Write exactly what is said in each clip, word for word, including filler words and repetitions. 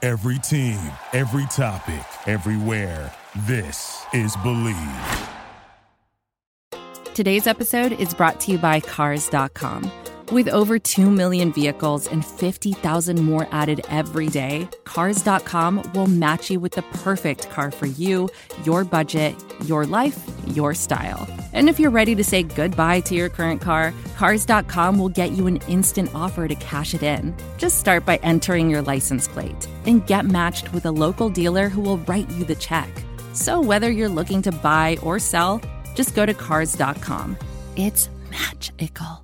Every team, every topic, everywhere. This is Believe. Today's episode is brought to you by Cars dot com. With over two million vehicles and fifty thousand more added every day, Cars dot com will match you with the perfect car for you, your budget, your life, your style. And if you're ready to say goodbye to your current car, Cars dot com will get you an instant offer to cash it in. Just start by entering your license plate and get matched with a local dealer who will write you the check. So whether you're looking to buy or sell, just go to Cars dot com. It's magical.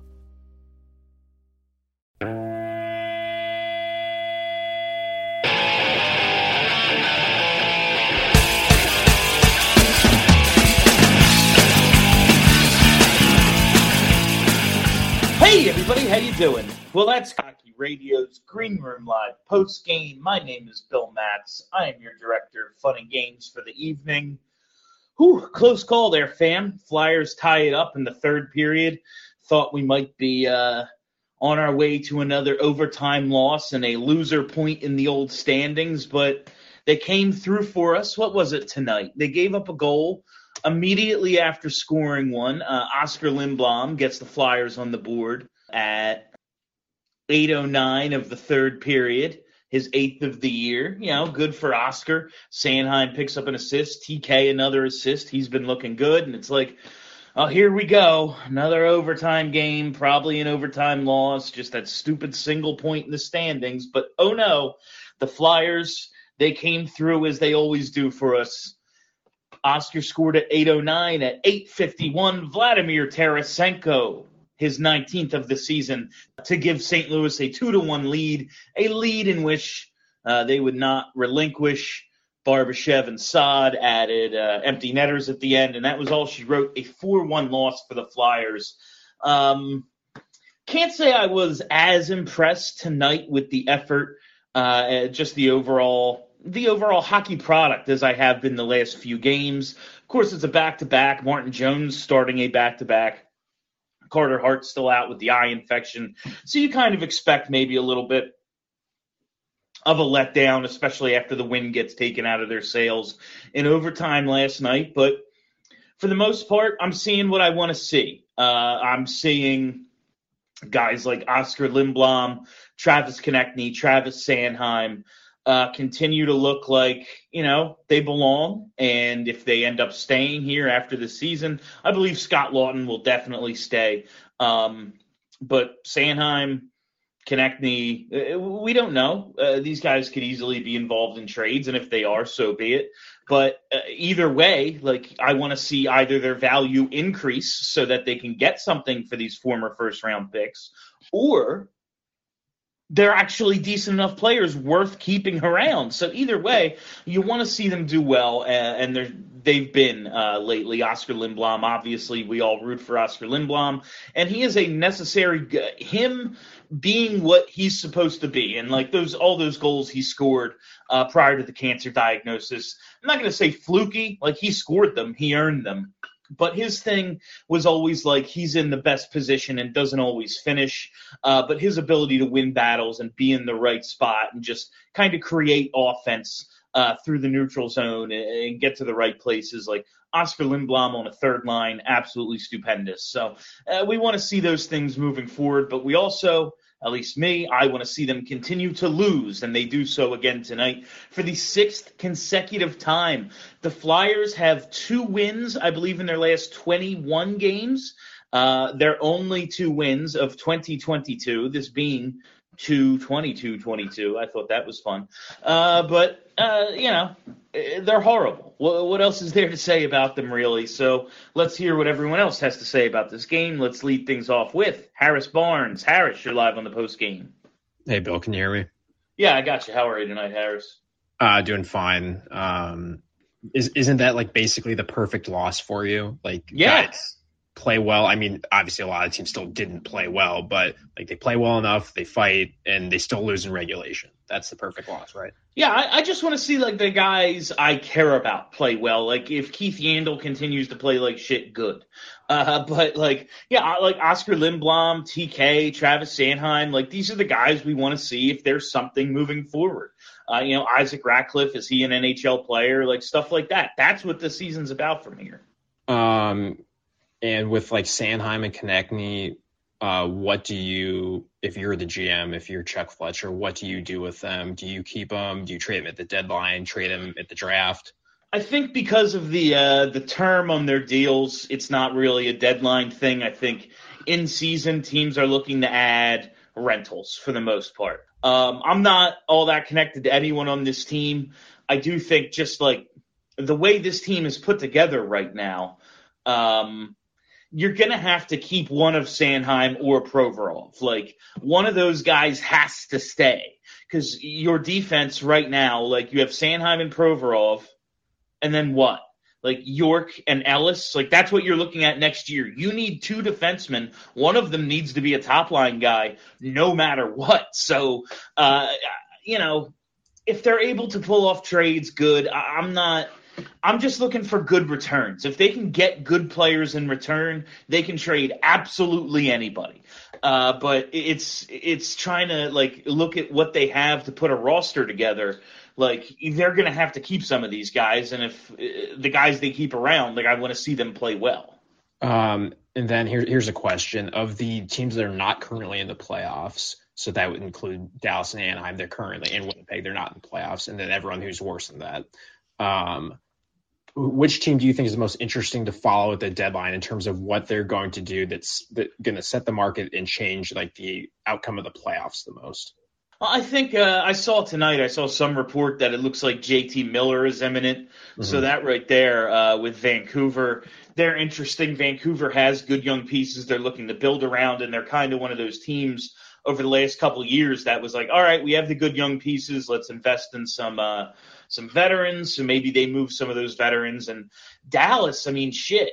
Hey everybody, how you doing? Well, that's Hockey Radio's Green Room Live post-game. My name is Bill Matz. I am your director of fun and games for the evening. Whew, close call there, fam. Flyers tie it up in the third period. Thought we might be uh, on our way to another overtime loss and a loser point in the old standings, but they came through for us. What was it tonight? They gave up a goal immediately after scoring one. uh, Oscar Lindblom gets the Flyers on the board at eight oh nine of the third period, his eighth of the year. You know, good for Oscar. Sanheim picks up an assist. T K another assist. He's been looking good, and it's like, oh, here we go. Another overtime game, probably an overtime loss, just that stupid single point in the standings. But oh no, the Flyers, they came through as they always do for us. Oscar scored at eight oh nine. At eight fifty-one, Vladimir Tarasenko, his nineteenth of the season, to give Saint Louis a two to one lead, a lead in which uh, they would not relinquish. Barbashev and Saad added uh, empty netters at the end, and that was all she wrote, a four one loss for the Flyers. Um, can't say I was as impressed tonight with the effort, uh, just the overall the overall hockey product as I have been the last few games. Of course, it's a back-to-back. Martin Jones starting a back-to-back. Carter Hart still out with the eye infection. So you kind of expect maybe a little bit of a letdown, especially after the win gets taken out of their sails in overtime last night. But for the most part, I'm seeing what I want to see. Uh, I'm seeing guys like Oscar Lindblom, Travis Konecny, Travis Sanheim, Uh, continue to look like, you know, they belong. And if they end up staying here after the season, I believe Scott Lawton will definitely stay. Um, but Sanheim, Konecny, uh, we don't know. Uh, these guys could easily be involved in trades, and if they are, so be it. But uh, either way, like, I want to see either their value increase so that they can get something for these former first-round picks, or they're actually decent enough players worth keeping around. So either way, you want to see them do well, and they're, they've been uh, lately. Oscar Lindblom, obviously, we all root for Oscar Lindblom, and he is a necessary – him being what he's supposed to be, and like those all those goals he scored uh, prior to the cancer diagnosis, I'm not going to say fluky, like he scored them, he earned them. But his thing was always like he's in the best position and doesn't always finish. Uh, but his ability to win battles and be in the right spot and just kind of create offense uh, through the neutral zone and, and get to the right places, like Oscar Lindblom on a third line, absolutely stupendous. So uh, we want to see those things moving forward. But we also, at least me, I want to see them continue to lose, and they do so again tonight for the sixth consecutive time. The Flyers have two wins, I believe, in their last twenty-one games. Uh, their only two wins of twenty twenty-two, this being two twenty-two twenty-two. I thought that was fun. Uh, but, uh, you know, they're horrible. What else is there to say about them, really? So let's hear what everyone else has to say about this game. Let's lead things off with Harris Barnes. Harris, you're live on the post game. Hey, Bill, can you hear me? Yeah, I got you. How are you tonight, Harris? Uh, doing fine. Um, is, isn't that like basically the perfect loss for you? Like, yes. Guys play well. I mean, obviously a lot of teams still didn't play well, but like they play well enough, they fight, and they still lose in regulation. that's the perfect loss, right? Yeah, I, I just want to see like the guys I care about play well. Like if Keith Yandel continues to play like shit, good. Uh, but like, yeah, I- like Oscar Lindblom, T K, Travis Sanheim, like these are the guys we want to see if there's something moving forward. Uh, you know, Isaac Ratcliffe, is he an N H L player? Like stuff like that. That's what the season's about from here. Um, and with like Sanheim and Konechny, uh, what do you, if you're the G M, if you're Chuck Fletcher, what do you do with them? Do you keep them? Do you trade them at the deadline? Trade them at the draft? I think because of the uh, the term on their deals, it's not really a deadline thing. I think in season teams are looking to add rentals for the most part. Um, I'm not all that connected to anyone on this team. I do think just like the way this team is put together right now, um, you're going to have to keep one of Sanheim or Provorov. Like one of those guys has to stay because your defense right now, like you have Sanheim and Provorov, and then what? Like York and Ellis, like that's what you're looking at next year. You need two defensemen. One of them needs to be a top line guy no matter what. So, uh, you know, if they're able to pull off trades, good. I- I'm not – I'm just looking for good returns. If they can get good players in return, they can trade absolutely anybody. Uh, but it's it's trying to, like, look at what they have to put a roster together. Like, they're going to have to keep some of these guys, and if uh, the guys they keep around, like, I want to see them play well. Um, and then here, here's a question. Of the teams that are not currently in the playoffs, so that would include Dallas and Anaheim, they're currently in Winnipeg, they're not in the playoffs, and then everyone who's worse than that. Um, which team do you think is the most interesting to follow at the deadline in terms of what they're going to do that's that going to set the market and change like the outcome of the playoffs the most? I think uh, I saw tonight, I saw some report that it looks like J T Miller is imminent. Mm-hmm. So that right there uh, with Vancouver, they're interesting. Vancouver has good young pieces they're looking to build around, and they're kind of one of those teams over the last couple of years that was like, all right, we have the good young pieces. Let's invest in some uh, some veterans. So maybe they move some of those veterans. And Dallas, I mean, shit.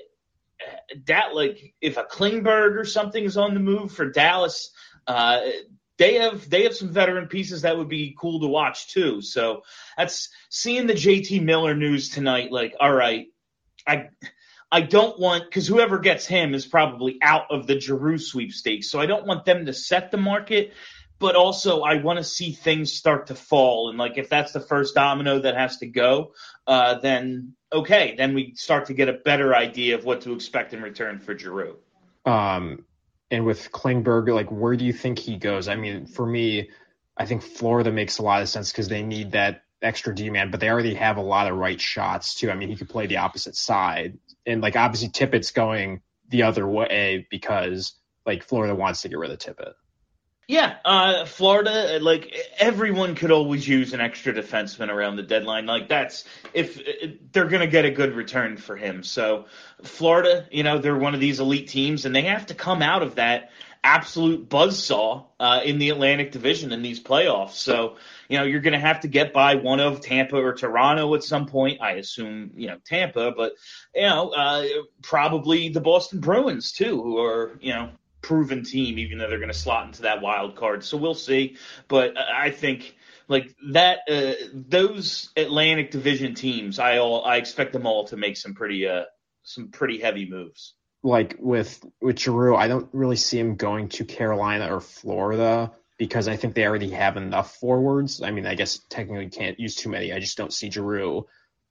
That like if a Klingberg or something is on the move for Dallas, uh, They have they have some veteran pieces that would be cool to watch too. So that's seeing the J T Miller news tonight. Like, all right, I I don't want because whoever gets him is probably out of the Giroux sweepstakes. So I don't want them to set the market, but also I want to see things start to fall. And like if that's the first domino that has to go, uh, then okay, then we start to get a better idea of what to expect in return for Giroux. Um. And with Klingberg, like, where do you think he goes? I mean, for me, I think Florida makes a lot of sense because they need that extra D-man, but they already have a lot of right shots, too. I mean, he could play the opposite side. And, like, obviously Tippett's going the other way because, like, Florida wants to get rid of Tippett. Yeah, uh, Florida, like, everyone could always use an extra defenseman around the deadline. Like, that's if, if they're going to get a good return for him. So, Florida, you know, they're one of these elite teams, and they have to come out of that absolute buzzsaw uh, in the Atlantic Division in these playoffs. So, you know, you're going to have to get by one of Tampa or Toronto at some point. I assume, you know, Tampa, but, you know, uh, probably the Boston Bruins, too, who are, you know, proven team, even though they're going to slot into that wild card. So we'll see. But I think like that, uh, those Atlantic Division teams, I all I expect them all to make some pretty, uh, some pretty heavy moves. Like with with Giroux, I don't really see him going to Carolina or Florida because I think they already have enough forwards. I mean, I guess technically can't use too many. I just don't see Giroux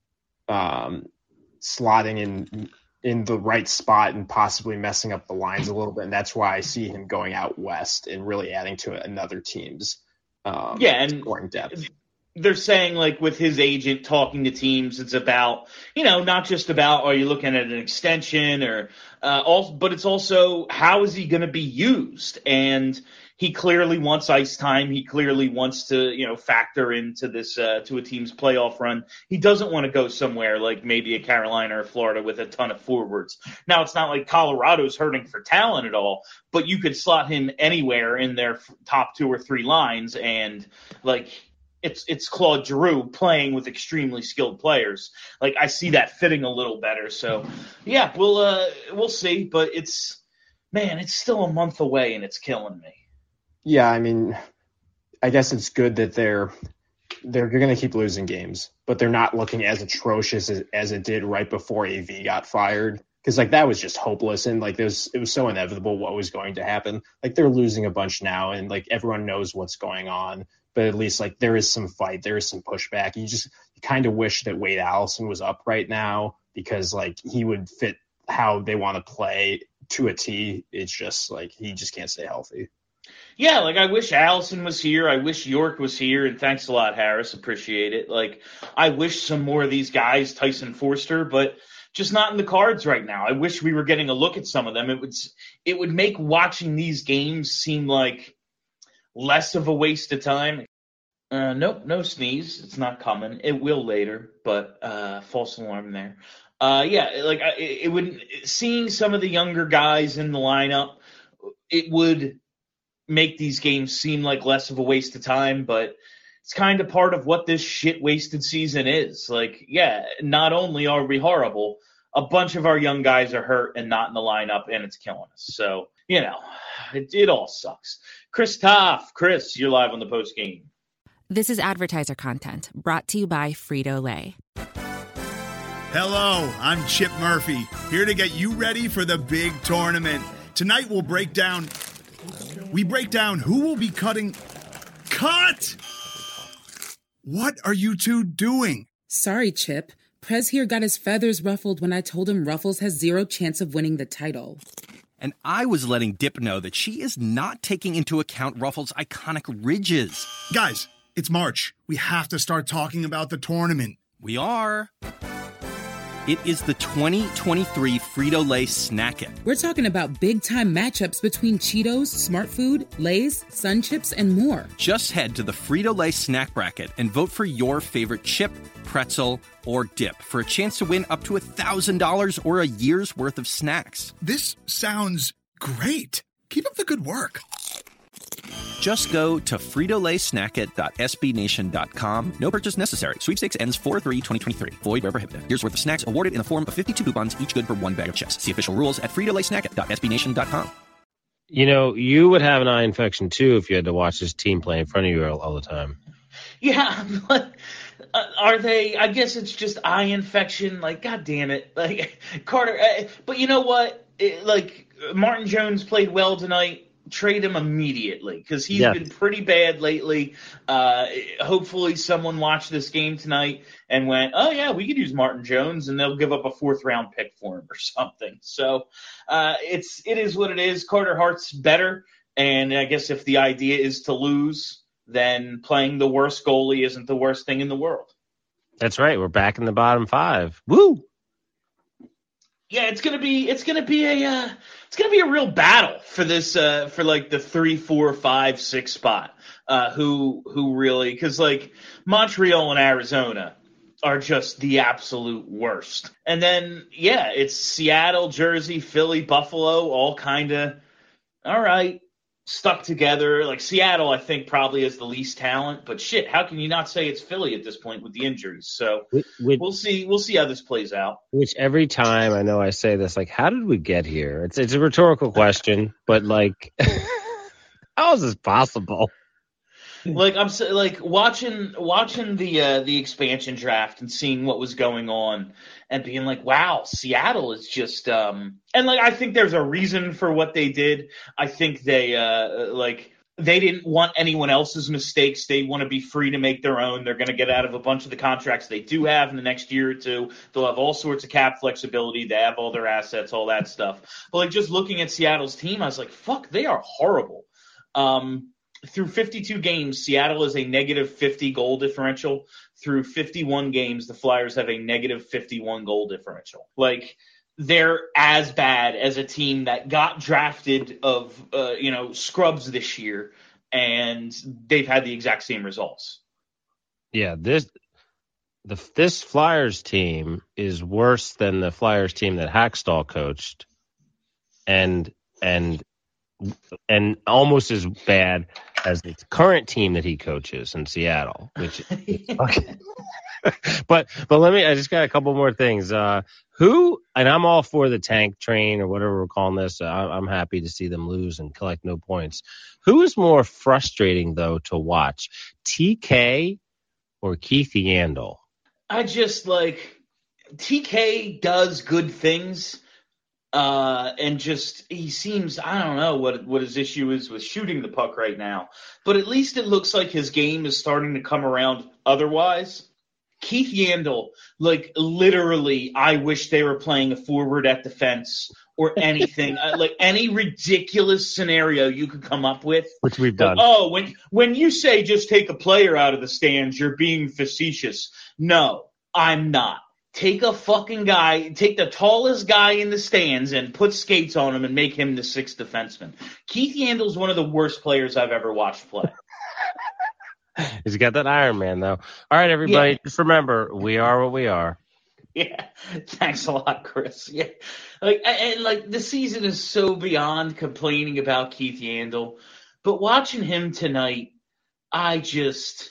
um, slotting in. in the right spot and possibly messing up the lines a little bit. And that's why I see him going out west and really adding to another team's um, yeah, and scoring depth. They're saying, like, with his agent talking to teams, it's about, you know, not just about, are you looking at an extension or, uh, also, but it's also, how is he going to be used? And he clearly wants ice time. He clearly wants to, you know, factor into this, uh, to a team's playoff run. He doesn't want to go somewhere like maybe a Carolina or Florida with a ton of forwards. Now, it's not like Colorado's hurting for talent at all, but you could slot him anywhere in their top two or three lines and, like, It's it's Claude Giroux playing with extremely skilled players. Like I see that fitting a little better. So yeah, we'll uh, we'll see. But it's man, it's still a month away, and it's killing me. Yeah, I mean, I guess it's good that they're they're going to keep losing games, but they're not looking as atrocious as, as it did right before A V got fired. Because like that was just hopeless, and like there's it was so inevitable what was going to happen. Like they're losing a bunch now, and like everyone knows what's going on. But at least like there is some fight, there is some pushback. You just you kind of wish that Wade Allison was up right now because like he would fit how they want to play to a T. It's just like he just can't stay healthy. Yeah, like I wish Allison was here. I wish York was here. And thanks a lot, Harris. Appreciate it. Like I wish some more of these guys, Tyson Forster, but just not in the cards right now. I wish we were getting a look at some of them. It would it would make watching these games seem like less of a waste of time. Uh, nope, no sneeze. It's not coming. It will later, but uh, false alarm there. Uh, yeah, like I, it would. Seeing some of the younger guys in the lineup, it would make these games seem like less of a waste of time. But it's kind of part of what this shit wasted season is. Like, yeah, not only are we horrible, a bunch of our young guys are hurt and not in the lineup, and it's killing us. So, you know, it, it all sucks. Chris Toff, Chris, you're live on the post game. This is advertiser content brought to you by Frito-Lay. Hello, I'm Chip Murphy, here to get you ready for the big tournament. Tonight we'll break down, we break down who will be cutting, cut! What are you two doing? Sorry, Chip. Prez here got his feathers ruffled when I told him Ruffles has zero chance of winning the title. And I was letting Dip know that she is not taking into account Ruffles' iconic ridges. Guys, it's March. We have to start talking about the tournament. We are. It is the twenty twenty-three Frito-Lay Snack It. We're talking about big-time matchups between Cheetos, Smart Food, Lay's, Sun Chips, and more. Just head to the Frito-Lay Snack Bracket and vote for your favorite chip, pretzel, or dip for a chance to win up to one thousand dollars or a year's worth of snacks. This sounds great. Keep up the good work. Just go to Frito Lay Snack It dot S B Nation dot com. No purchase necessary. Sweepstakes ends four three twenty twenty-three. Void where prohibited. Here's worth of snacks awarded in the form of fifty-two coupons, each good for one bag of chips. See official rules at Frito Lay Snack It dot S B Nation dot com. You know, you would have an eye infection, too, if you had to watch this team play in front of you all, all the time. Yeah, but uh, are they? I guess it's just eye infection. Like, God damn it. Like, Carter. Uh, but you know what? It, like, Martin Jones played well tonight. Trade him immediately because he's yeah. been pretty bad lately. Uh, hopefully someone watched this game tonight and went, oh, yeah, we could use Martin Jones, and they'll give up a fourth-round pick for him or something. So uh, it's it is what it is. Carter Hart's better, and I guess if the idea is to lose, then playing the worst goalie isn't the worst thing in the world. That's right. We're back in the bottom five. Woo! Yeah, it's gonna be it's gonna be a uh, it's gonna be a real battle for this uh, for like the three, four, five, six spot. Uh, who who really because like Montreal and Arizona are just the absolute worst, and then yeah, it's Seattle, Jersey, Philly, Buffalo, all kind of all right stuck together. Like Seattle, I think probably has the least talent, but shit, how can you not say it's Philly at this point with the injuries? So which, we'll see. We'll see how this plays out. Which every time I know I say this, like, how did we get here? It's it's a rhetorical question, but like, how is this possible? Like I'm like watching watching the uh, the expansion draft and seeing what was going on and being like, wow, Seattle is just um and like I think there's a reason for what they did. I think they uh like they didn't want anyone else's mistakes. They want to be free to make their own. They're going to get out of a bunch of the contracts they do have in the next year or two. They'll have all sorts of cap flexibility. They have all their assets, all that stuff. But like just looking at Seattle's team, I was like, fuck, they are horrible. Um Through fifty-two games, Seattle is a negative fifty goal differential. Through fifty-one games, the Flyers have a negative fifty-one goal differential. Like, they're as bad as a team that got drafted of, uh, you know, scrubs this year, and they've had the exact same results. Yeah, this the this Flyers team is worse than the Flyers team that Hackstall coached, and and and almost as bad as the current team that he coaches in Seattle, which okay. but but let me I just got a couple more things. Uh, who and I'm all for the tank train or whatever we're calling this. I, I'm happy to see them lose and collect no points. Who is more frustrating though to watch, T K or Keith Yandle? I just like T K does good things. Uh, and just, he seems, I don't know what what his issue is with shooting the puck right now. But at least it looks like his game is starting to come around otherwise. Keith Yandle, like, literally, I wish they were playing a forward at defense or anything. uh, like, any ridiculous scenario you could come up with. Which we've done. Like, oh, when when you say just take a player out of the stands, you're being facetious. No, I'm not. Take a fucking guy, take the tallest guy in the stands and put skates on him and make him the sixth defenseman. Keith Yandle's one of the worst players I've ever watched play. He's got that Iron Man, though. All right, everybody, Yeah. just remember, we are what we are. Yeah, thanks a lot, Chris. Yeah, like and like the season is so beyond complaining about Keith Yandle, but watching him tonight, I just...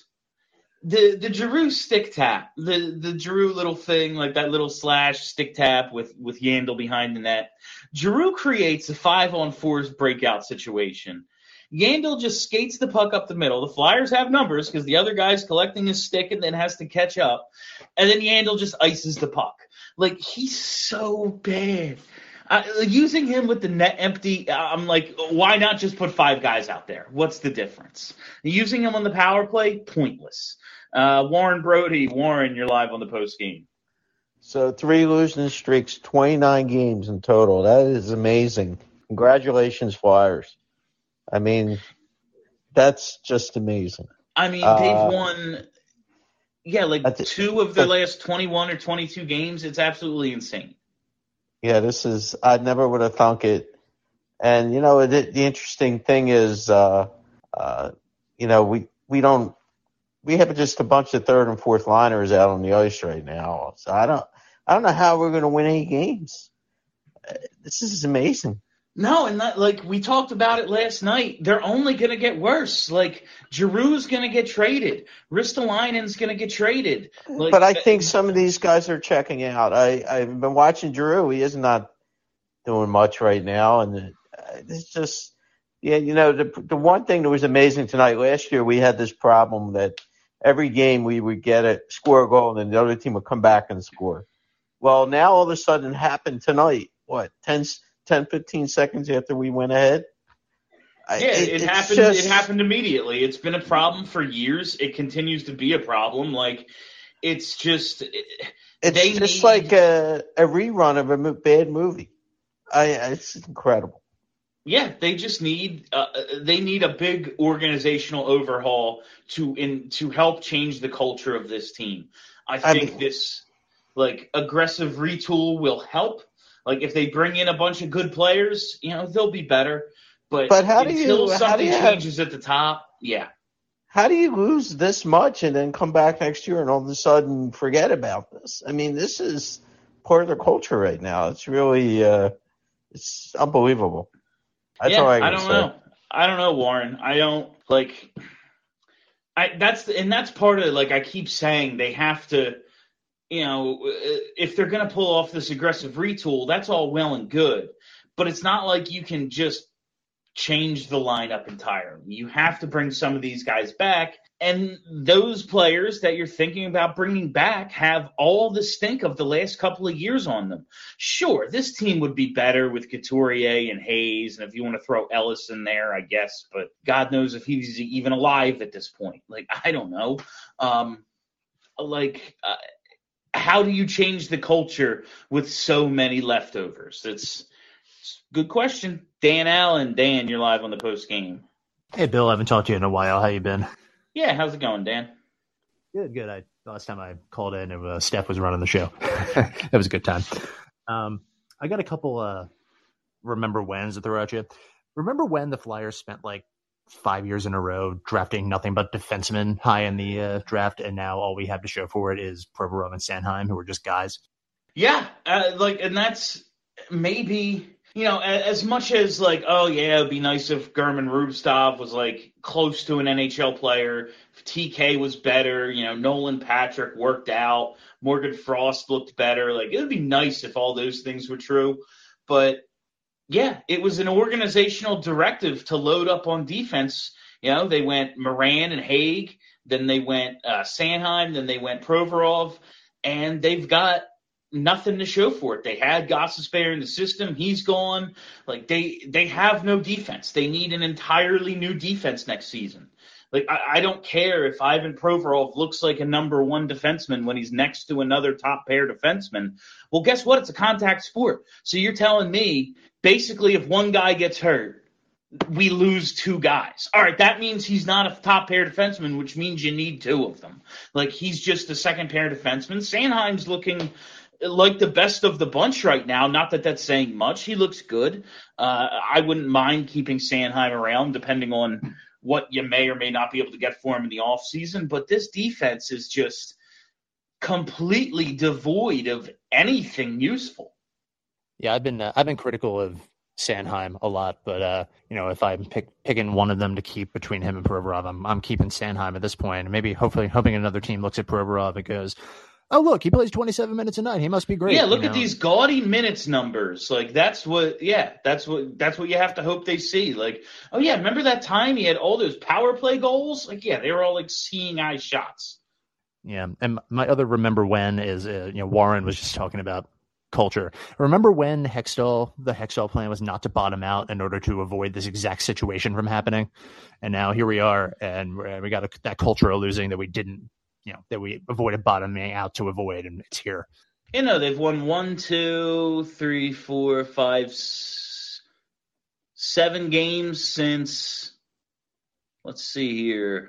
The the Giroux stick tap, the the Giroux little thing, like that little slash stick tap with, with Yandle behind the net. Giroux creates a five on fours breakout situation. Yandle just skates the puck up the middle. The Flyers have numbers because the other guy's collecting his stick and then has to catch up. And then Yandle just ices the puck. Like, he's so bad. Uh, using him with the net empty, I'm like, why not just put five guys out there? What's the difference? Using him on the power play, pointless. Uh, Warren Brody, Warren, you're live on the post game. So three losing streaks, twenty-nine games in total. That is amazing. Congratulations, Flyers. I mean, that's just amazing. I mean, Uh, they've won, yeah, like that's- two of their last twenty-one or twenty-two games. It's absolutely insane. Yeah, this is, I never would have thunk it. And, you know, the, the interesting thing is, uh, uh, you know, we, we don't, we have just a bunch of third and fourth liners out on the ice right now. So I don't, I don't know how we're going to win any games. Uh, This is amazing. No, and that, like we talked about it last night, they're only going to get worse. Like Giroux's going to get traded, Ristolainen's going to get traded. Like, But I think some of these guys are checking out. I, I've been watching Giroux. He is not doing much right now. And it's just, yeah, you know, the, the one thing that was amazing tonight, last year we had this problem that every game we would get it, score a goal, and then the other team would come back and score. Well, now all of a sudden it happened tonight. What, ten, ten, fifteen seconds after we went ahead? I- Yeah, it, it's happened. just- It happened immediately. It's been a problem for years. It continues to be a problem. Like, it's just it, It's they just need- like a, a rerun of a mo- bad movie. I, it's incredible. Yeah, they just need uh, they need a big organizational overhaul to in to help change the culture of this team. I I think mean- this like aggressive retool will help. Like if they bring in a bunch of good players, you know, they'll be better. But, But how do until you- how something do you have- changes at the top, yeah. How do you lose this much and then come back next year and all of a sudden forget about this? I mean, this is part of their culture right now. It's really, uh, it's unbelievable. That's yeah, all I I can don't say. know. I don't know, Warren. I don't like. I that's and that's part of like I keep saying they have to, you know, if they're going to pull off this aggressive retool, that's all well and good, but it's not like you can just change the lineup entirely. You have to bring some of these guys back, and those players that you're thinking about bringing back have all the stink of the last couple of years on them. Sure, this team would be better with Couturier and Hayes, and if you want to throw Ellis in there, I guess, but God knows if he's even alive at this point. Like, I don't know. Um, like, uh, how do you change the culture with so many leftovers? It's good question. Dan Allen, Dan, you're live on the post game. Hey, Bill, I haven't talked to you in a while. How you been? Yeah, how's it going, Dan? Good, good. I last time I called in, uh, Steph was running the show. It was a good time. Um, I got a couple uh, remember whens to throw at you. Remember when the Flyers spent like five years in a row drafting nothing but defensemen high in the uh, draft, and now all we have to show for it is Provorov and Sanheim, who are just guys? Yeah, uh, like, and that's maybe you know, as much as like, oh yeah, it'd be nice if German Rubstov was like close to an N H L player, if T K was better, you know, Nolan Patrick worked out, Morgan Frost looked better. Like, it would be nice if all those things were true. But yeah, it was an organizational directive to load up on defense. You know, they went Moran and Haig, then they went uh, Sanheim, then they went Provorov, and they've got nothing to show for it. They had Gostisbehere in the system. He's gone. Like, they they have no defense. They need an entirely new defense next season. Like, I, I don't care if Ivan Provorov looks like a number one defenseman when he's next to another top pair defenseman. Well, guess what? It's a contact sport. So you're telling me basically if one guy gets hurt, we lose two guys. All right, that means he's not a top pair defenseman, which means you need two of them. Like, he's just a second pair defenseman. Sanheim's looking like the best of the bunch right now. Not that that's saying much. He looks good. Uh, I wouldn't mind keeping Sanheim around depending on what you may or may not be able to get for him in the offseason. But this defense is just completely devoid of anything useful. Yeah, I've been uh, I've been critical of Sanheim a lot, but uh, you know, if I'm pick, picking one of them to keep between him and Provorov, I'm I'm keeping Sanheim at this point. Maybe hopefully hoping another team looks at Provorov and goes, oh, look, he plays twenty-seven minutes a night. He must be great. Yeah, look you at know? these gaudy minutes numbers. Like, that's what, yeah, that's what, that's what you have to hope they see. Like, oh yeah, remember that time he had all those power play goals? Like, yeah, they were all like seeing eye shots. Yeah, and my other remember when is, uh, you know, Warren was just talking about culture. Remember when Hextall, the Hextall plan was not to bottom out in order to avoid this exact situation from happening? And now here we are, and we got a, that culture of losing that we didn't, you know, that we avoided bottoming out to avoid, and it's here. You know, they've won one, two, three, four, five, s- seven games since, let's see here,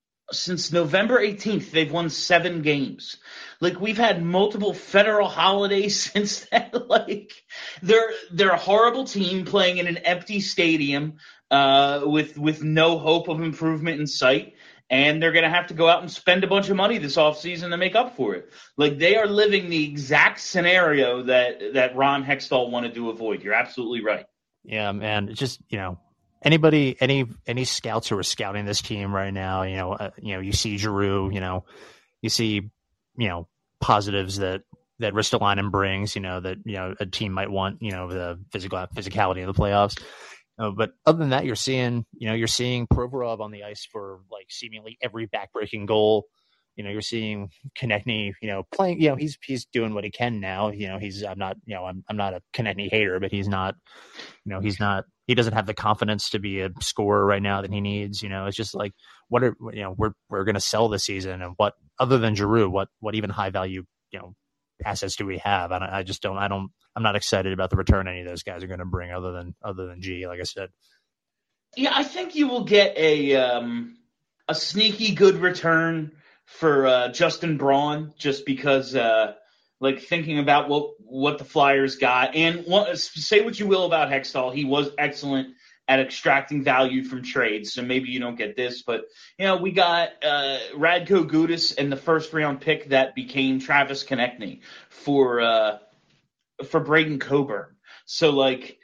since November eighteenth, they've won seven games. Like, we've had multiple federal holidays since then. Like, they're they're a horrible team playing in an empty stadium uh, with with no hope of improvement in sight. And they're going to have to go out and spend a bunch of money this offseason to make up for it. Like, they are living the exact scenario that, that Ron Hextall wanted to avoid. You're absolutely right. Yeah, man. It's just, you know, anybody, any any scouts who are scouting this team right now, you know, uh, you know, you see Giroux, you know, you see, you know, positives that that Ristolainen brings, you know, that, you know, a team might want, you know, the physical physicality of the playoffs. Uh, but other than that, you're seeing, you know, you're seeing Provorov on the ice for like seemingly every backbreaking goal. You know, you're seeing Konechny, you know, playing, you know, he's, he's doing what he can now. You know, he's, I'm not, you know, I'm, I'm not a Konechny hater, but he's not, you know, he's not, he doesn't have the confidence to be a scorer right now that he needs. You know, it's just like, what are, you know, we're, we're going to sell this season, and what, other than Giroux, what, what even high value, you know, assets do we have? I, don't, I just don't, I don't, I'm not excited about the return any of those guys are going to bring other than, other than G, like I said. Yeah, I think you will get a, um, a sneaky good return for uh, Justin Braun, just because, uh, like, thinking about what what the Flyers got, and what, say what you will about Hextall, he was excellent at extracting value from trades. So maybe you don't get this, but you know, we got uh, Radko Gudas and the first round pick that became Travis Konechny for uh, for Braden Coburn. So like,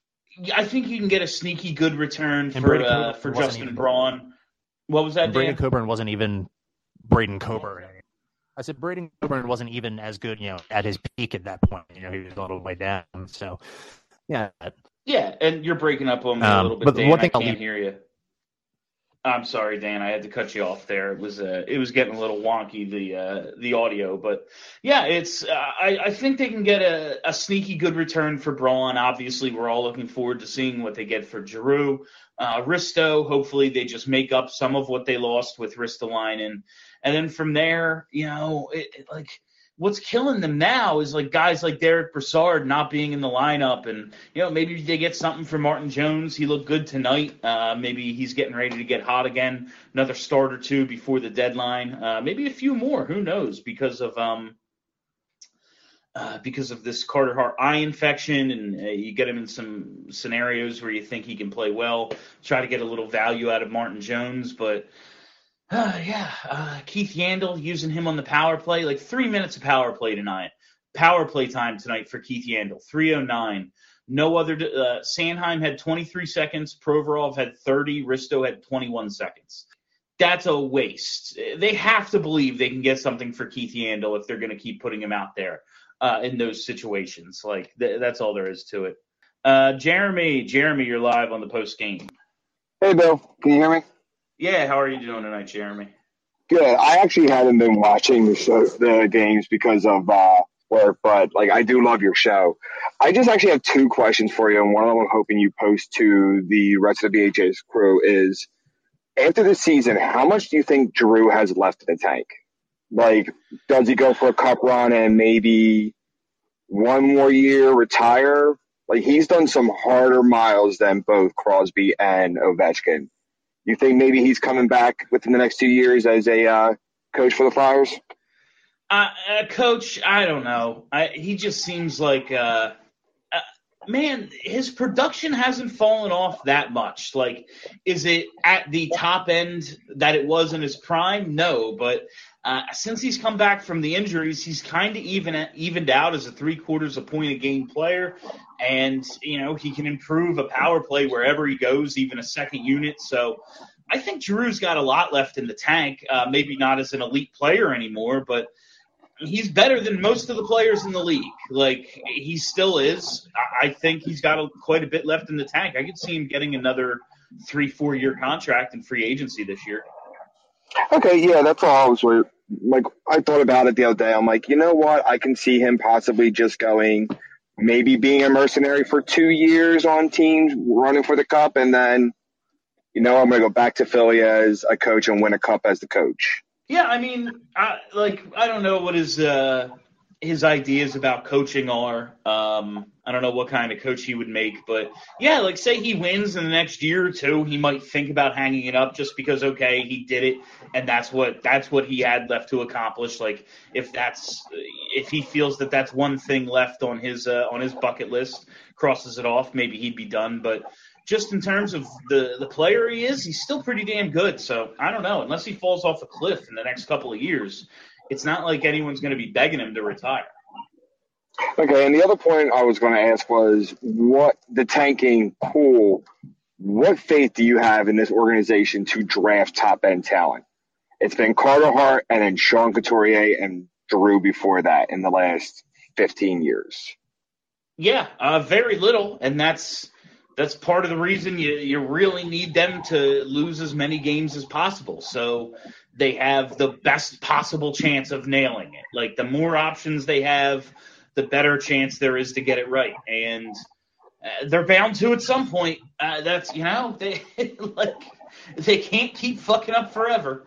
I think you can get a sneaky good return and for uh, for Justin even, Braun. What was that? Braden Dan? Coburn wasn't even Braden Coburn. I said Braden Coburn wasn't even as good, you know, at his peak at that point. You know, he was a little way down. So, yeah. Yeah, and you're breaking up on me um, a little bit, but Dan. one thing I I'll can't leave- hear you. I'm sorry, Dan. I had to cut you off there. It was uh, it was getting a little wonky, the uh, the audio, but yeah, it's uh, I, I think they can get a, a sneaky good return for Braun. Obviously, we're all looking forward to seeing what they get for Giroux. Uh, Risto, hopefully they just make up some of what they lost with Ristolainen. And then from there, you know, it, it, like what's killing them now is like guys like Derek Brassard not being in the lineup. And, you know, maybe they get something from Martin Jones. He looked good tonight. Uh, maybe he's getting ready to get hot again. Another start or two before the deadline. Uh, maybe a few more. Who knows? Because of um, uh, because of this Carter Hart eye infection, and uh, you get him in some scenarios where you think he can play well. Try to get a little value out of Martin Jones, but. Uh, yeah, uh, Keith Yandel, using him on the power play, like three minutes of power play tonight. Power play time tonight for Keith Yandel, three oh nine. No other. Uh, Sanheim had twenty-three seconds. Provorov had thirty. Risto had twenty-one seconds. That's a waste. They have to believe they can get something for Keith Yandle if they're going to keep putting him out there uh, in those situations. Like th- that's all there is to it. Uh, Jeremy, Jeremy, you're live on the post game. Hey, Bill. Can you hear me? Yeah. How are you doing tonight, Jeremy? Good. I actually haven't been watching the show, the games because of uh, work, but like I do love your show. I just actually have two questions for you, and one of them I'm hoping you post to the rest of the B H A's crew is, after the season, how much do you think Giroux has left in the tank? Like, does he go for a cup run and maybe one more year retire? Like, he's done some harder miles than both Crosby and Ovechkin. You think maybe he's coming back within the next two years as a uh, coach for the Flyers? Uh, uh, coach, I don't know. I, he just seems like, uh, uh, man, his production hasn't fallen off that much. Like, is it at the top end that it was in his prime? No, but uh, since he's come back from the injuries, he's kind of even evened out as a three-quarters a point a game player. And, you know, he can improve a power play wherever he goes, even a second unit. So I think Giroux's got a lot left in the tank, uh, maybe not as an elite player anymore, but he's better than most of the players in the league. Like, he still is. I think he's got a, quite a bit left in the tank. I could see him getting another three, four-year contract in free agency this year. Okay, yeah, that's all I was worried. Like, I thought about it the other day. I'm like, you know what? I can see him possibly just going – maybe being a mercenary for two years on teams running for the cup, and then, you know, I'm going to go back to Philly as a coach and win a cup as the coach. Yeah, I mean, I, like, I don't know what his uh, his ideas about coaching are. Um, I don't know what kind of coach he would make, but yeah, like, say he wins in the next year or two, he might think about hanging it up just because, okay, he did it, and that's what that's what he had left to accomplish. Like, if that's if he feels that that's one thing left on his uh, on his bucket list, crosses it off, maybe he'd be done. But just in terms of the the player he is, he's still pretty damn good. So I don't know, unless he falls off a cliff in the next couple of years, it's not like anyone's going to be begging him to retire. Okay, and the other point I was going to ask was, what the tanking pool, what faith do you have in this organization to draft top-end talent? It's been Carter Hart and then Sean Couturier and Giroux before that in the last fifteen years. Yeah, uh, very little, and that's that's part of the reason you, you really need them to lose as many games as possible, so they have the best possible chance of nailing it. Like, the more options they have, the better chance there is to get it right. And uh, they're bound to at some point. Uh, that's, you know, they like they can't keep fucking up forever.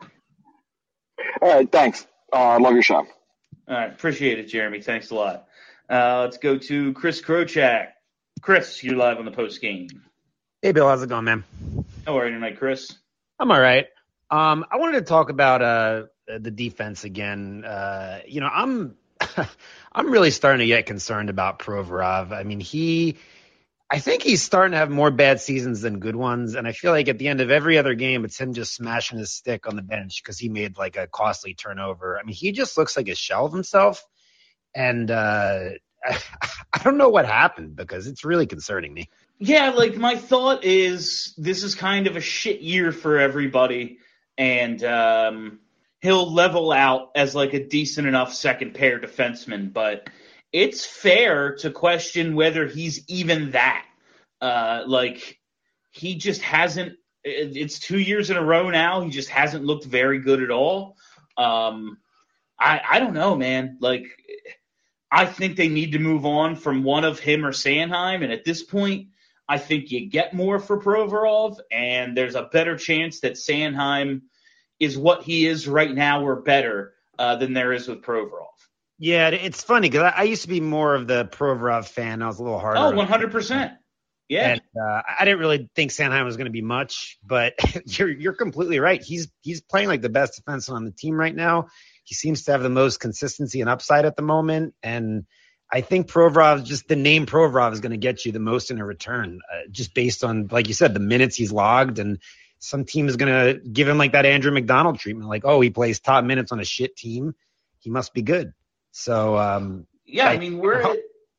All right, thanks. I uh, love your show. All right, appreciate it, Jeremy. Thanks a lot. Uh, let's go to Chris Krochak. Chris, you're live on the post game. Hey, Bill. How's it going, man? How are you tonight, Chris? I'm all right. Um, I wanted to talk about uh, the defense again. Uh, you know, I'm I'm really starting to get concerned about Provorov. I mean, he – I think he's starting to have more bad seasons than good ones, and I feel like at the end of every other game, it's him just smashing his stick on the bench because he made, like, a costly turnover. I mean, he just looks like a shell of himself, and uh, I, I don't know what happened because it's really concerning me. Yeah, like, my thought is this is kind of a shit year for everybody, and um, he'll level out as, like, a decent enough second-pair defenseman, but it's fair to question whether he's even that. Uh, like, he just hasn't – it's two years in a row now. He just hasn't looked very good at all. Um, I, I don't know, man. Like, I think they need to move on from one of him or Sanheim, and at this point – I think you get more for Provorov, and there's a better chance that Sanheim is what he is right now or better uh, than there is with Provorov. Yeah, it's funny because I, I used to be more of the Provorov fan. I was a little harder. Oh, one hundred percent. Yeah. And uh, I didn't really think Sanheim was going to be much, but you're you're completely right. He's he's playing like the best defenseman on the team right now. He seems to have the most consistency and upside at the moment, and I think Provorov, just the name Provorov is going to get you the most in a return, uh, just based on, like you said, the minutes he's logged. And some team is going to give him like that Andrew McDonald treatment. Like, oh, he plays top minutes on a shit team. He must be good. So, um, yeah, I, I mean, we're, at,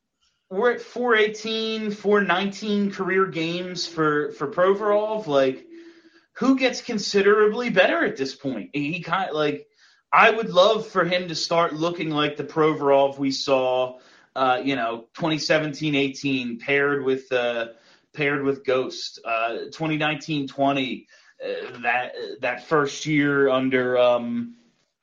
we're at four eighteen, four nineteen career games for, for Provorov. Like, who gets considerably better at this point? He kind of, like, I would love for him to start looking like the Provorov we saw, uh, you know, twenty seventeen eighteen paired with uh, paired with Ghost, uh, twenty nineteen twenty, uh, that that first year under um,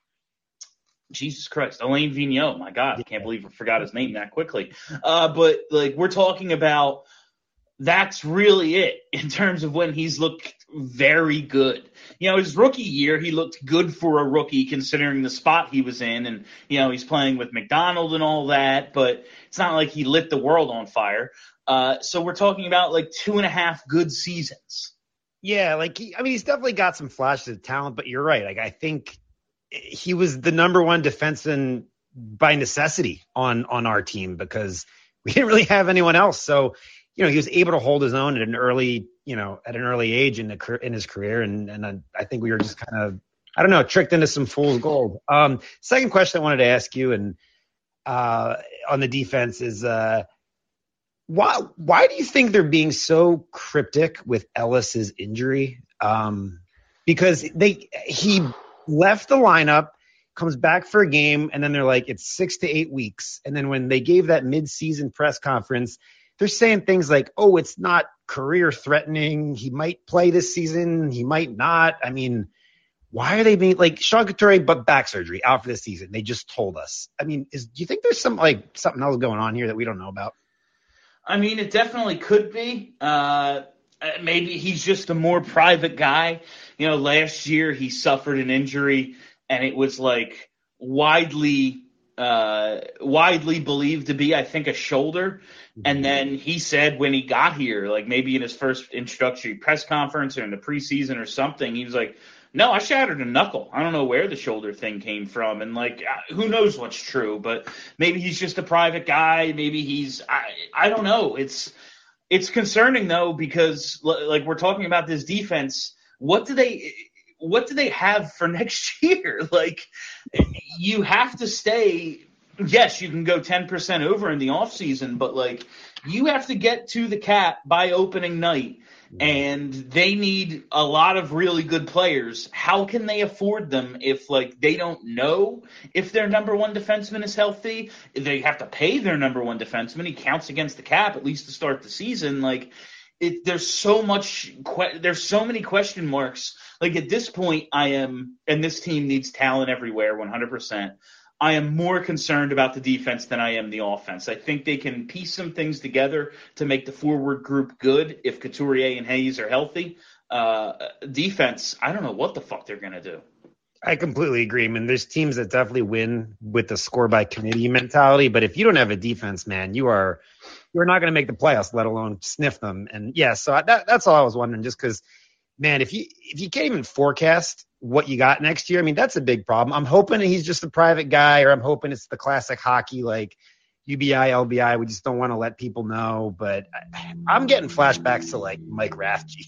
Jesus Christ, Alain Vigneault. My God, I can't believe I forgot his name that quickly. Uh, but like we're talking about, that's really it in terms of when he's looked very good. You know, his rookie year, he looked good for a rookie considering the spot he was in. And, you know, he's playing with McDonald and all that, but it's not like he lit the world on fire. Uh, so we're talking about like two and a half good seasons. Yeah, like, he, I mean, he's definitely got some flashes of talent, but you're right. Like, I think he was the number one defenseman by necessity on, on our team because we didn't really have anyone else. So, you know, he was able to hold his own at an early, you know, at an early age in the in his career, and and I think we were just kind of, I don't know, tricked into some fool's gold. Um, second question I wanted to ask you, and uh, on the defense is, uh, why why do you think they're being so cryptic with Ellis's injury? Um, because they he left the lineup, comes back for a game, and then they're like, it's six to eight weeks, and then when they gave that mid-season press conference, they're saying things like, oh, it's not career threatening. He might play this season. He might not. I mean, why are they being like Sean Couturier, but back surgery out for this season? They just told us. I mean, is, do you think there's some like something else going on here that we don't know about? I mean, it definitely could be. Uh, maybe he's just a more private guy. You know, last year he suffered an injury and it was like widely Uh, widely believed to be, I think, a shoulder. And then he said when he got here, like maybe in his first introductory press conference or in the preseason or something, he was like, no, I shattered a knuckle. I don't know where the shoulder thing came from. And like, who knows what's true, but maybe he's just a private guy. Maybe he's, I, I don't know. It's, it's concerning though, because like we're talking about this defense. What do they, what do they have for next year? Like, you have to stay. Yes, you can go ten percent over in the offseason, but like you have to get to the cap by opening night, and they need a lot of really good players. How can they afford them if like they don't know if their number one defenseman is healthy? They have to pay their number one defenseman. He counts against the cap at least to start the season. Like it, there's so much, there's so many question marks. Like at this point, I am, and this team needs talent everywhere, one hundred percent. I am more concerned about the defense than I am the offense. I think they can piece some things together to make the forward group good if Couturier and Hayes are healthy. Uh, defense, I don't know what the fuck they're going to do. I completely agree. I mean, there's teams that definitely win with the score by committee mentality, but if you don't have a defense, man, you are you're not going to make the playoffs, let alone sniff them. And yeah, so I, that, that's all I was wondering, just because, man, if you if you can't even forecast what you got next year, I mean, that's a big problem. I'm hoping he's just a private guy, or I'm hoping it's the classic hockey, like U B I, L B I. We just don't want to let people know. But I, I'm getting flashbacks to like Mike Rathje.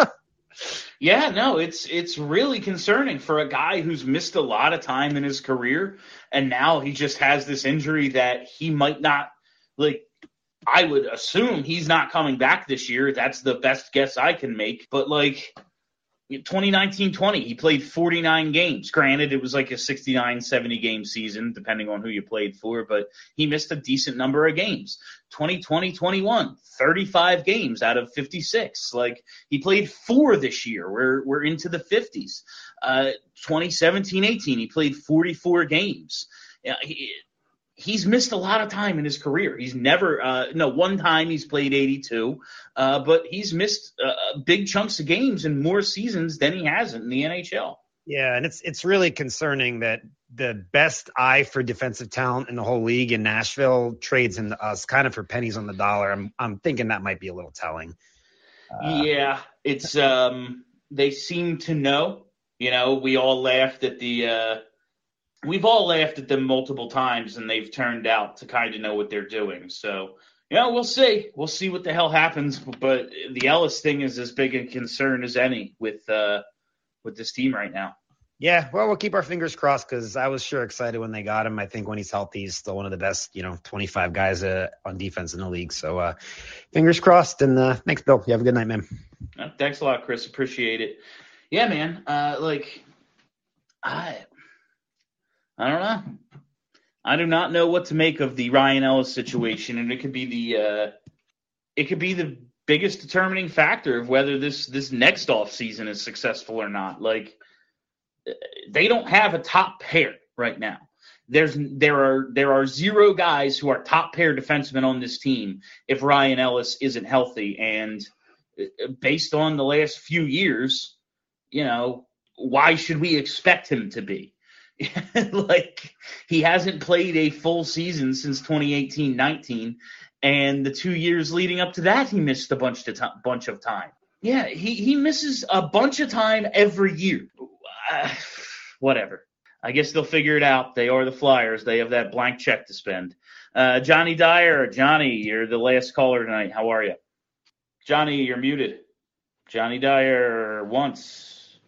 Yeah, no, it's it's really concerning for a guy who's missed a lot of time in his career, and now he just has this injury that he might not, like, I would assume he's not coming back this year. That's the best guess I can make. But, like, twenty nineteen twenty, he played forty-nine games. Granted, it was like a sixty-nine, seventy game season, depending on who you played for, but he missed a decent number of games. twenty twenty twenty-one, thirty-five games out of fifty-six. Like, he played four this year. We're we're into the fifties. Uh, twenty seventeen eighteen, he played forty-four games. Yeah, he, He's missed a lot of time in his career. He's never uh, – no, one time he's played eighty-two, uh, but he's missed uh, big chunks of games in more seasons than he hasn't in the N H L. Yeah, and it's it's really concerning that the best eye for defensive talent in the whole league in Nashville trades into us kind of for pennies on the dollar. I'm I'm thinking that might be a little telling. Uh, yeah, it's um, – they seem to know. You know, we all laughed at the uh, – We've all laughed at them multiple times, and they've turned out to kind of know what they're doing. So, you know, we'll see. We'll see what the hell happens. But the Ellis thing is as big a concern as any with uh, with this team right now. Yeah, well, we'll keep our fingers crossed because I was sure excited when they got him. I think when he's healthy, he's still one of the best, you know, twenty-five guys uh, on defense in the league. So uh, fingers crossed. And uh, thanks, Bill. You have a good night, man. Uh, thanks a lot, Chris. Appreciate it. Yeah, man. Uh, like, I, I don't know. I do not know what to make of the Ryan Ellis situation, and it could be the, uh, it could be the biggest determining factor of whether this this next off season is successful or not. Like. They don't have a top pair right now. There's there are there are zero guys who are top pair defensemen on this team if Ryan Ellis isn't healthy. And based on the last few years, you know, why should we expect him to be? Like, he hasn't played a full season since twenty eighteen nineteen, and the two years leading up to that, he missed a bunch of t- bunch of time. Yeah, he he misses a bunch of time every year. Uh, whatever. I guess they'll figure it out. They are the Flyers. They have that blank check to spend. Uh, Johnny Dyer, Johnny, you're the last caller tonight. How are you? Johnny, you're muted. Johnny Dyer, once,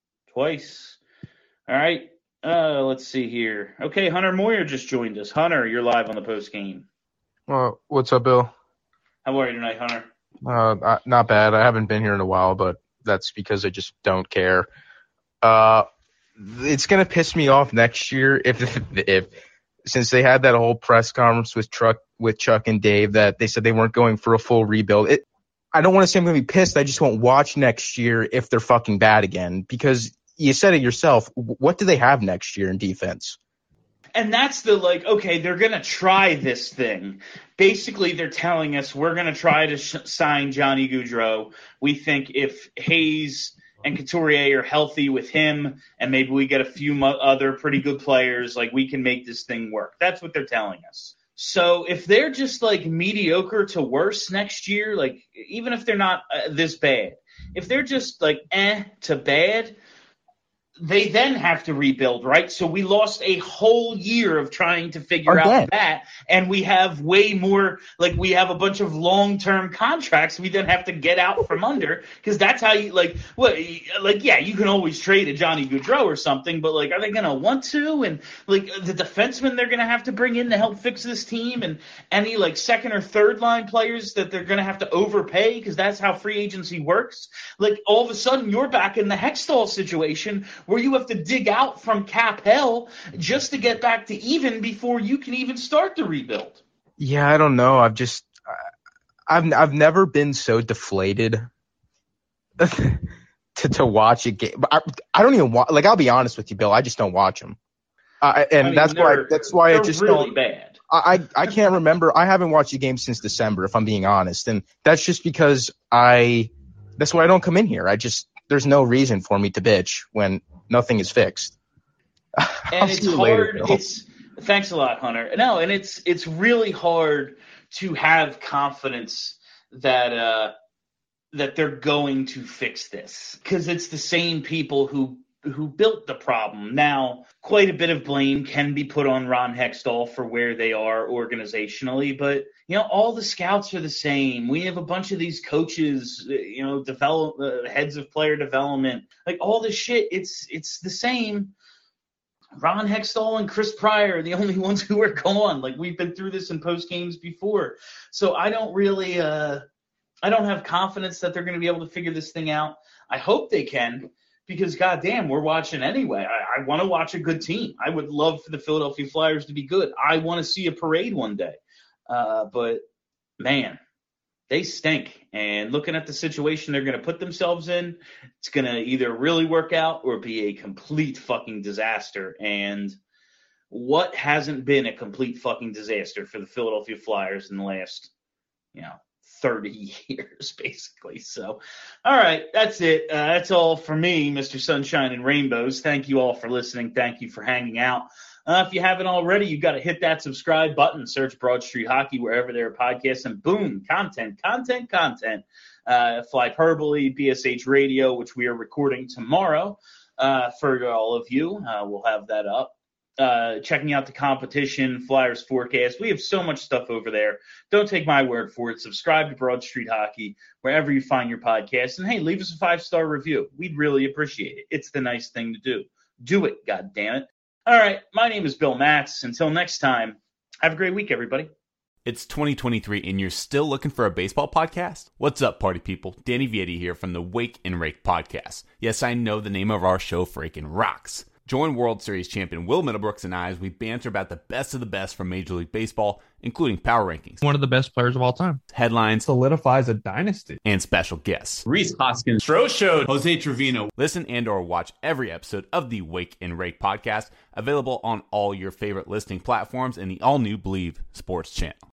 twice. All right. Uh, let's see here. Okay, Hunter Moyer just joined us. Hunter, you're live on the post game. Well, what's up, Bill? How are you tonight, Hunter? Uh, not bad. I haven't been here in a while, but that's because I just don't care. Uh, it's gonna piss me off next year if, if, if, since they had that whole press conference with Chuck, with Chuck and Dave, that they said they weren't going for a full rebuild. It, I don't want to say I'm gonna be pissed. I just won't watch next year if they're fucking bad again, because you said it yourself. What do they have next year in defense? And that's the, like, okay, they're going to try this thing. Basically, they're telling us we're going to try to sh- sign Johnny Gaudreau. We think if Hayes and Couturier are healthy with him, and maybe we get a few mo- other pretty good players, like, we can make this thing work. That's what they're telling us. So if they're just, like, mediocre to worse next year, like, even if they're not uh, this bad, if they're just, like, eh to bad, they then have to rebuild, right? So we lost a whole year of trying to figure Again. out that, and we have way more, like, we have a bunch of long-term contracts we then have to get out from under, because that's how you, like, what, like, yeah, you can always trade a Johnny Gaudreau or something, but, like, are they going to want to? And, like, the defensemen they're going to have to bring in to help fix this team, and any, like, second or third-line players that they're going to have to overpay, because that's how free agency works. Like, all of a sudden, you're back in the Hextall situation where you have to dig out from cap hell just to get back to even before you can even start the rebuild. Yeah, I don't know. I've just, I've, I've never been so deflated to to watch a game. I, I don't even watch. Like, I'll be honest with you, Bill. I just don't watch them, uh, and I mean, that's why. That's why I just really don't. bad. I I can't remember. I haven't watched a game since December, if I'm being honest, and that's just because I. That's why I don't come in here. I just there's no reason for me to bitch when nothing is fixed. And it's hard. Later, it's thanks a lot, Hunter. No, and it's it's really hard to have confidence that uh, that they're going to fix this, because it's the same people who who built the problem. Now, quite a bit of blame can be put on Ron Hextall for where they are organizationally, but you know, all the scouts are the same. We have a bunch of these coaches, you know, develop uh, heads of player development, like all this shit. It's it's the same. Ron Hextall and Chris Pryor are the only ones who are gone. Like, we've been through this in post games before, so I don't really, uh, I don't have confidence that they're going to be able to figure this thing out. I hope they can, because goddamn, we're watching anyway. I, I want to watch a good team. I would love for the Philadelphia Flyers to be good. I want to see a parade one day. Uh, but, man, they stink. And looking at the situation they're going to put themselves in, it's going to either really work out or be a complete fucking disaster. And what hasn't been a complete fucking disaster for the Philadelphia Flyers in the last, you know, thirty years, basically. So, all right, that's it. Uh, that's all for me, Mister Sunshine and Rainbows. Thank you all for listening. Thank you for hanging out. Uh, if you haven't already, you've got to hit that subscribe button, search Broad Street Hockey wherever there are podcasts, and boom, content, content, content. Uh, Flyperbole, B S H Radio, which we are recording tomorrow uh, for all of you. Uh, we'll have that up. Uh, checking out the competition, Flyers forecast. We have so much stuff over there. Don't take my word for it. Subscribe to Broad Street Hockey wherever you find your podcast. And, hey, leave us a five-star review. We'd really appreciate it. It's the nice thing to do. Do it, goddammit. All right, my name is Bill Matz. Until next time, have a great week, everybody. It's twenty twenty-three and you're still looking for a baseball podcast? What's up, party people? Danny Vietti here from the Wake and Rake podcast. Yes, I know the name of our show freaking rocks. Join World Series champion Will Middlebrooks and I as we banter about the best of the best from Major League Baseball, including power rankings, one of the best players of all time, headlines, solidifies a dynasty, and special guests. Rhys Hoskins, Stro Show, Jose Trevino. Listen and or watch every episode of the Wake and Rake podcast, available on all your favorite listening platforms and the all-new Believe Sports channel.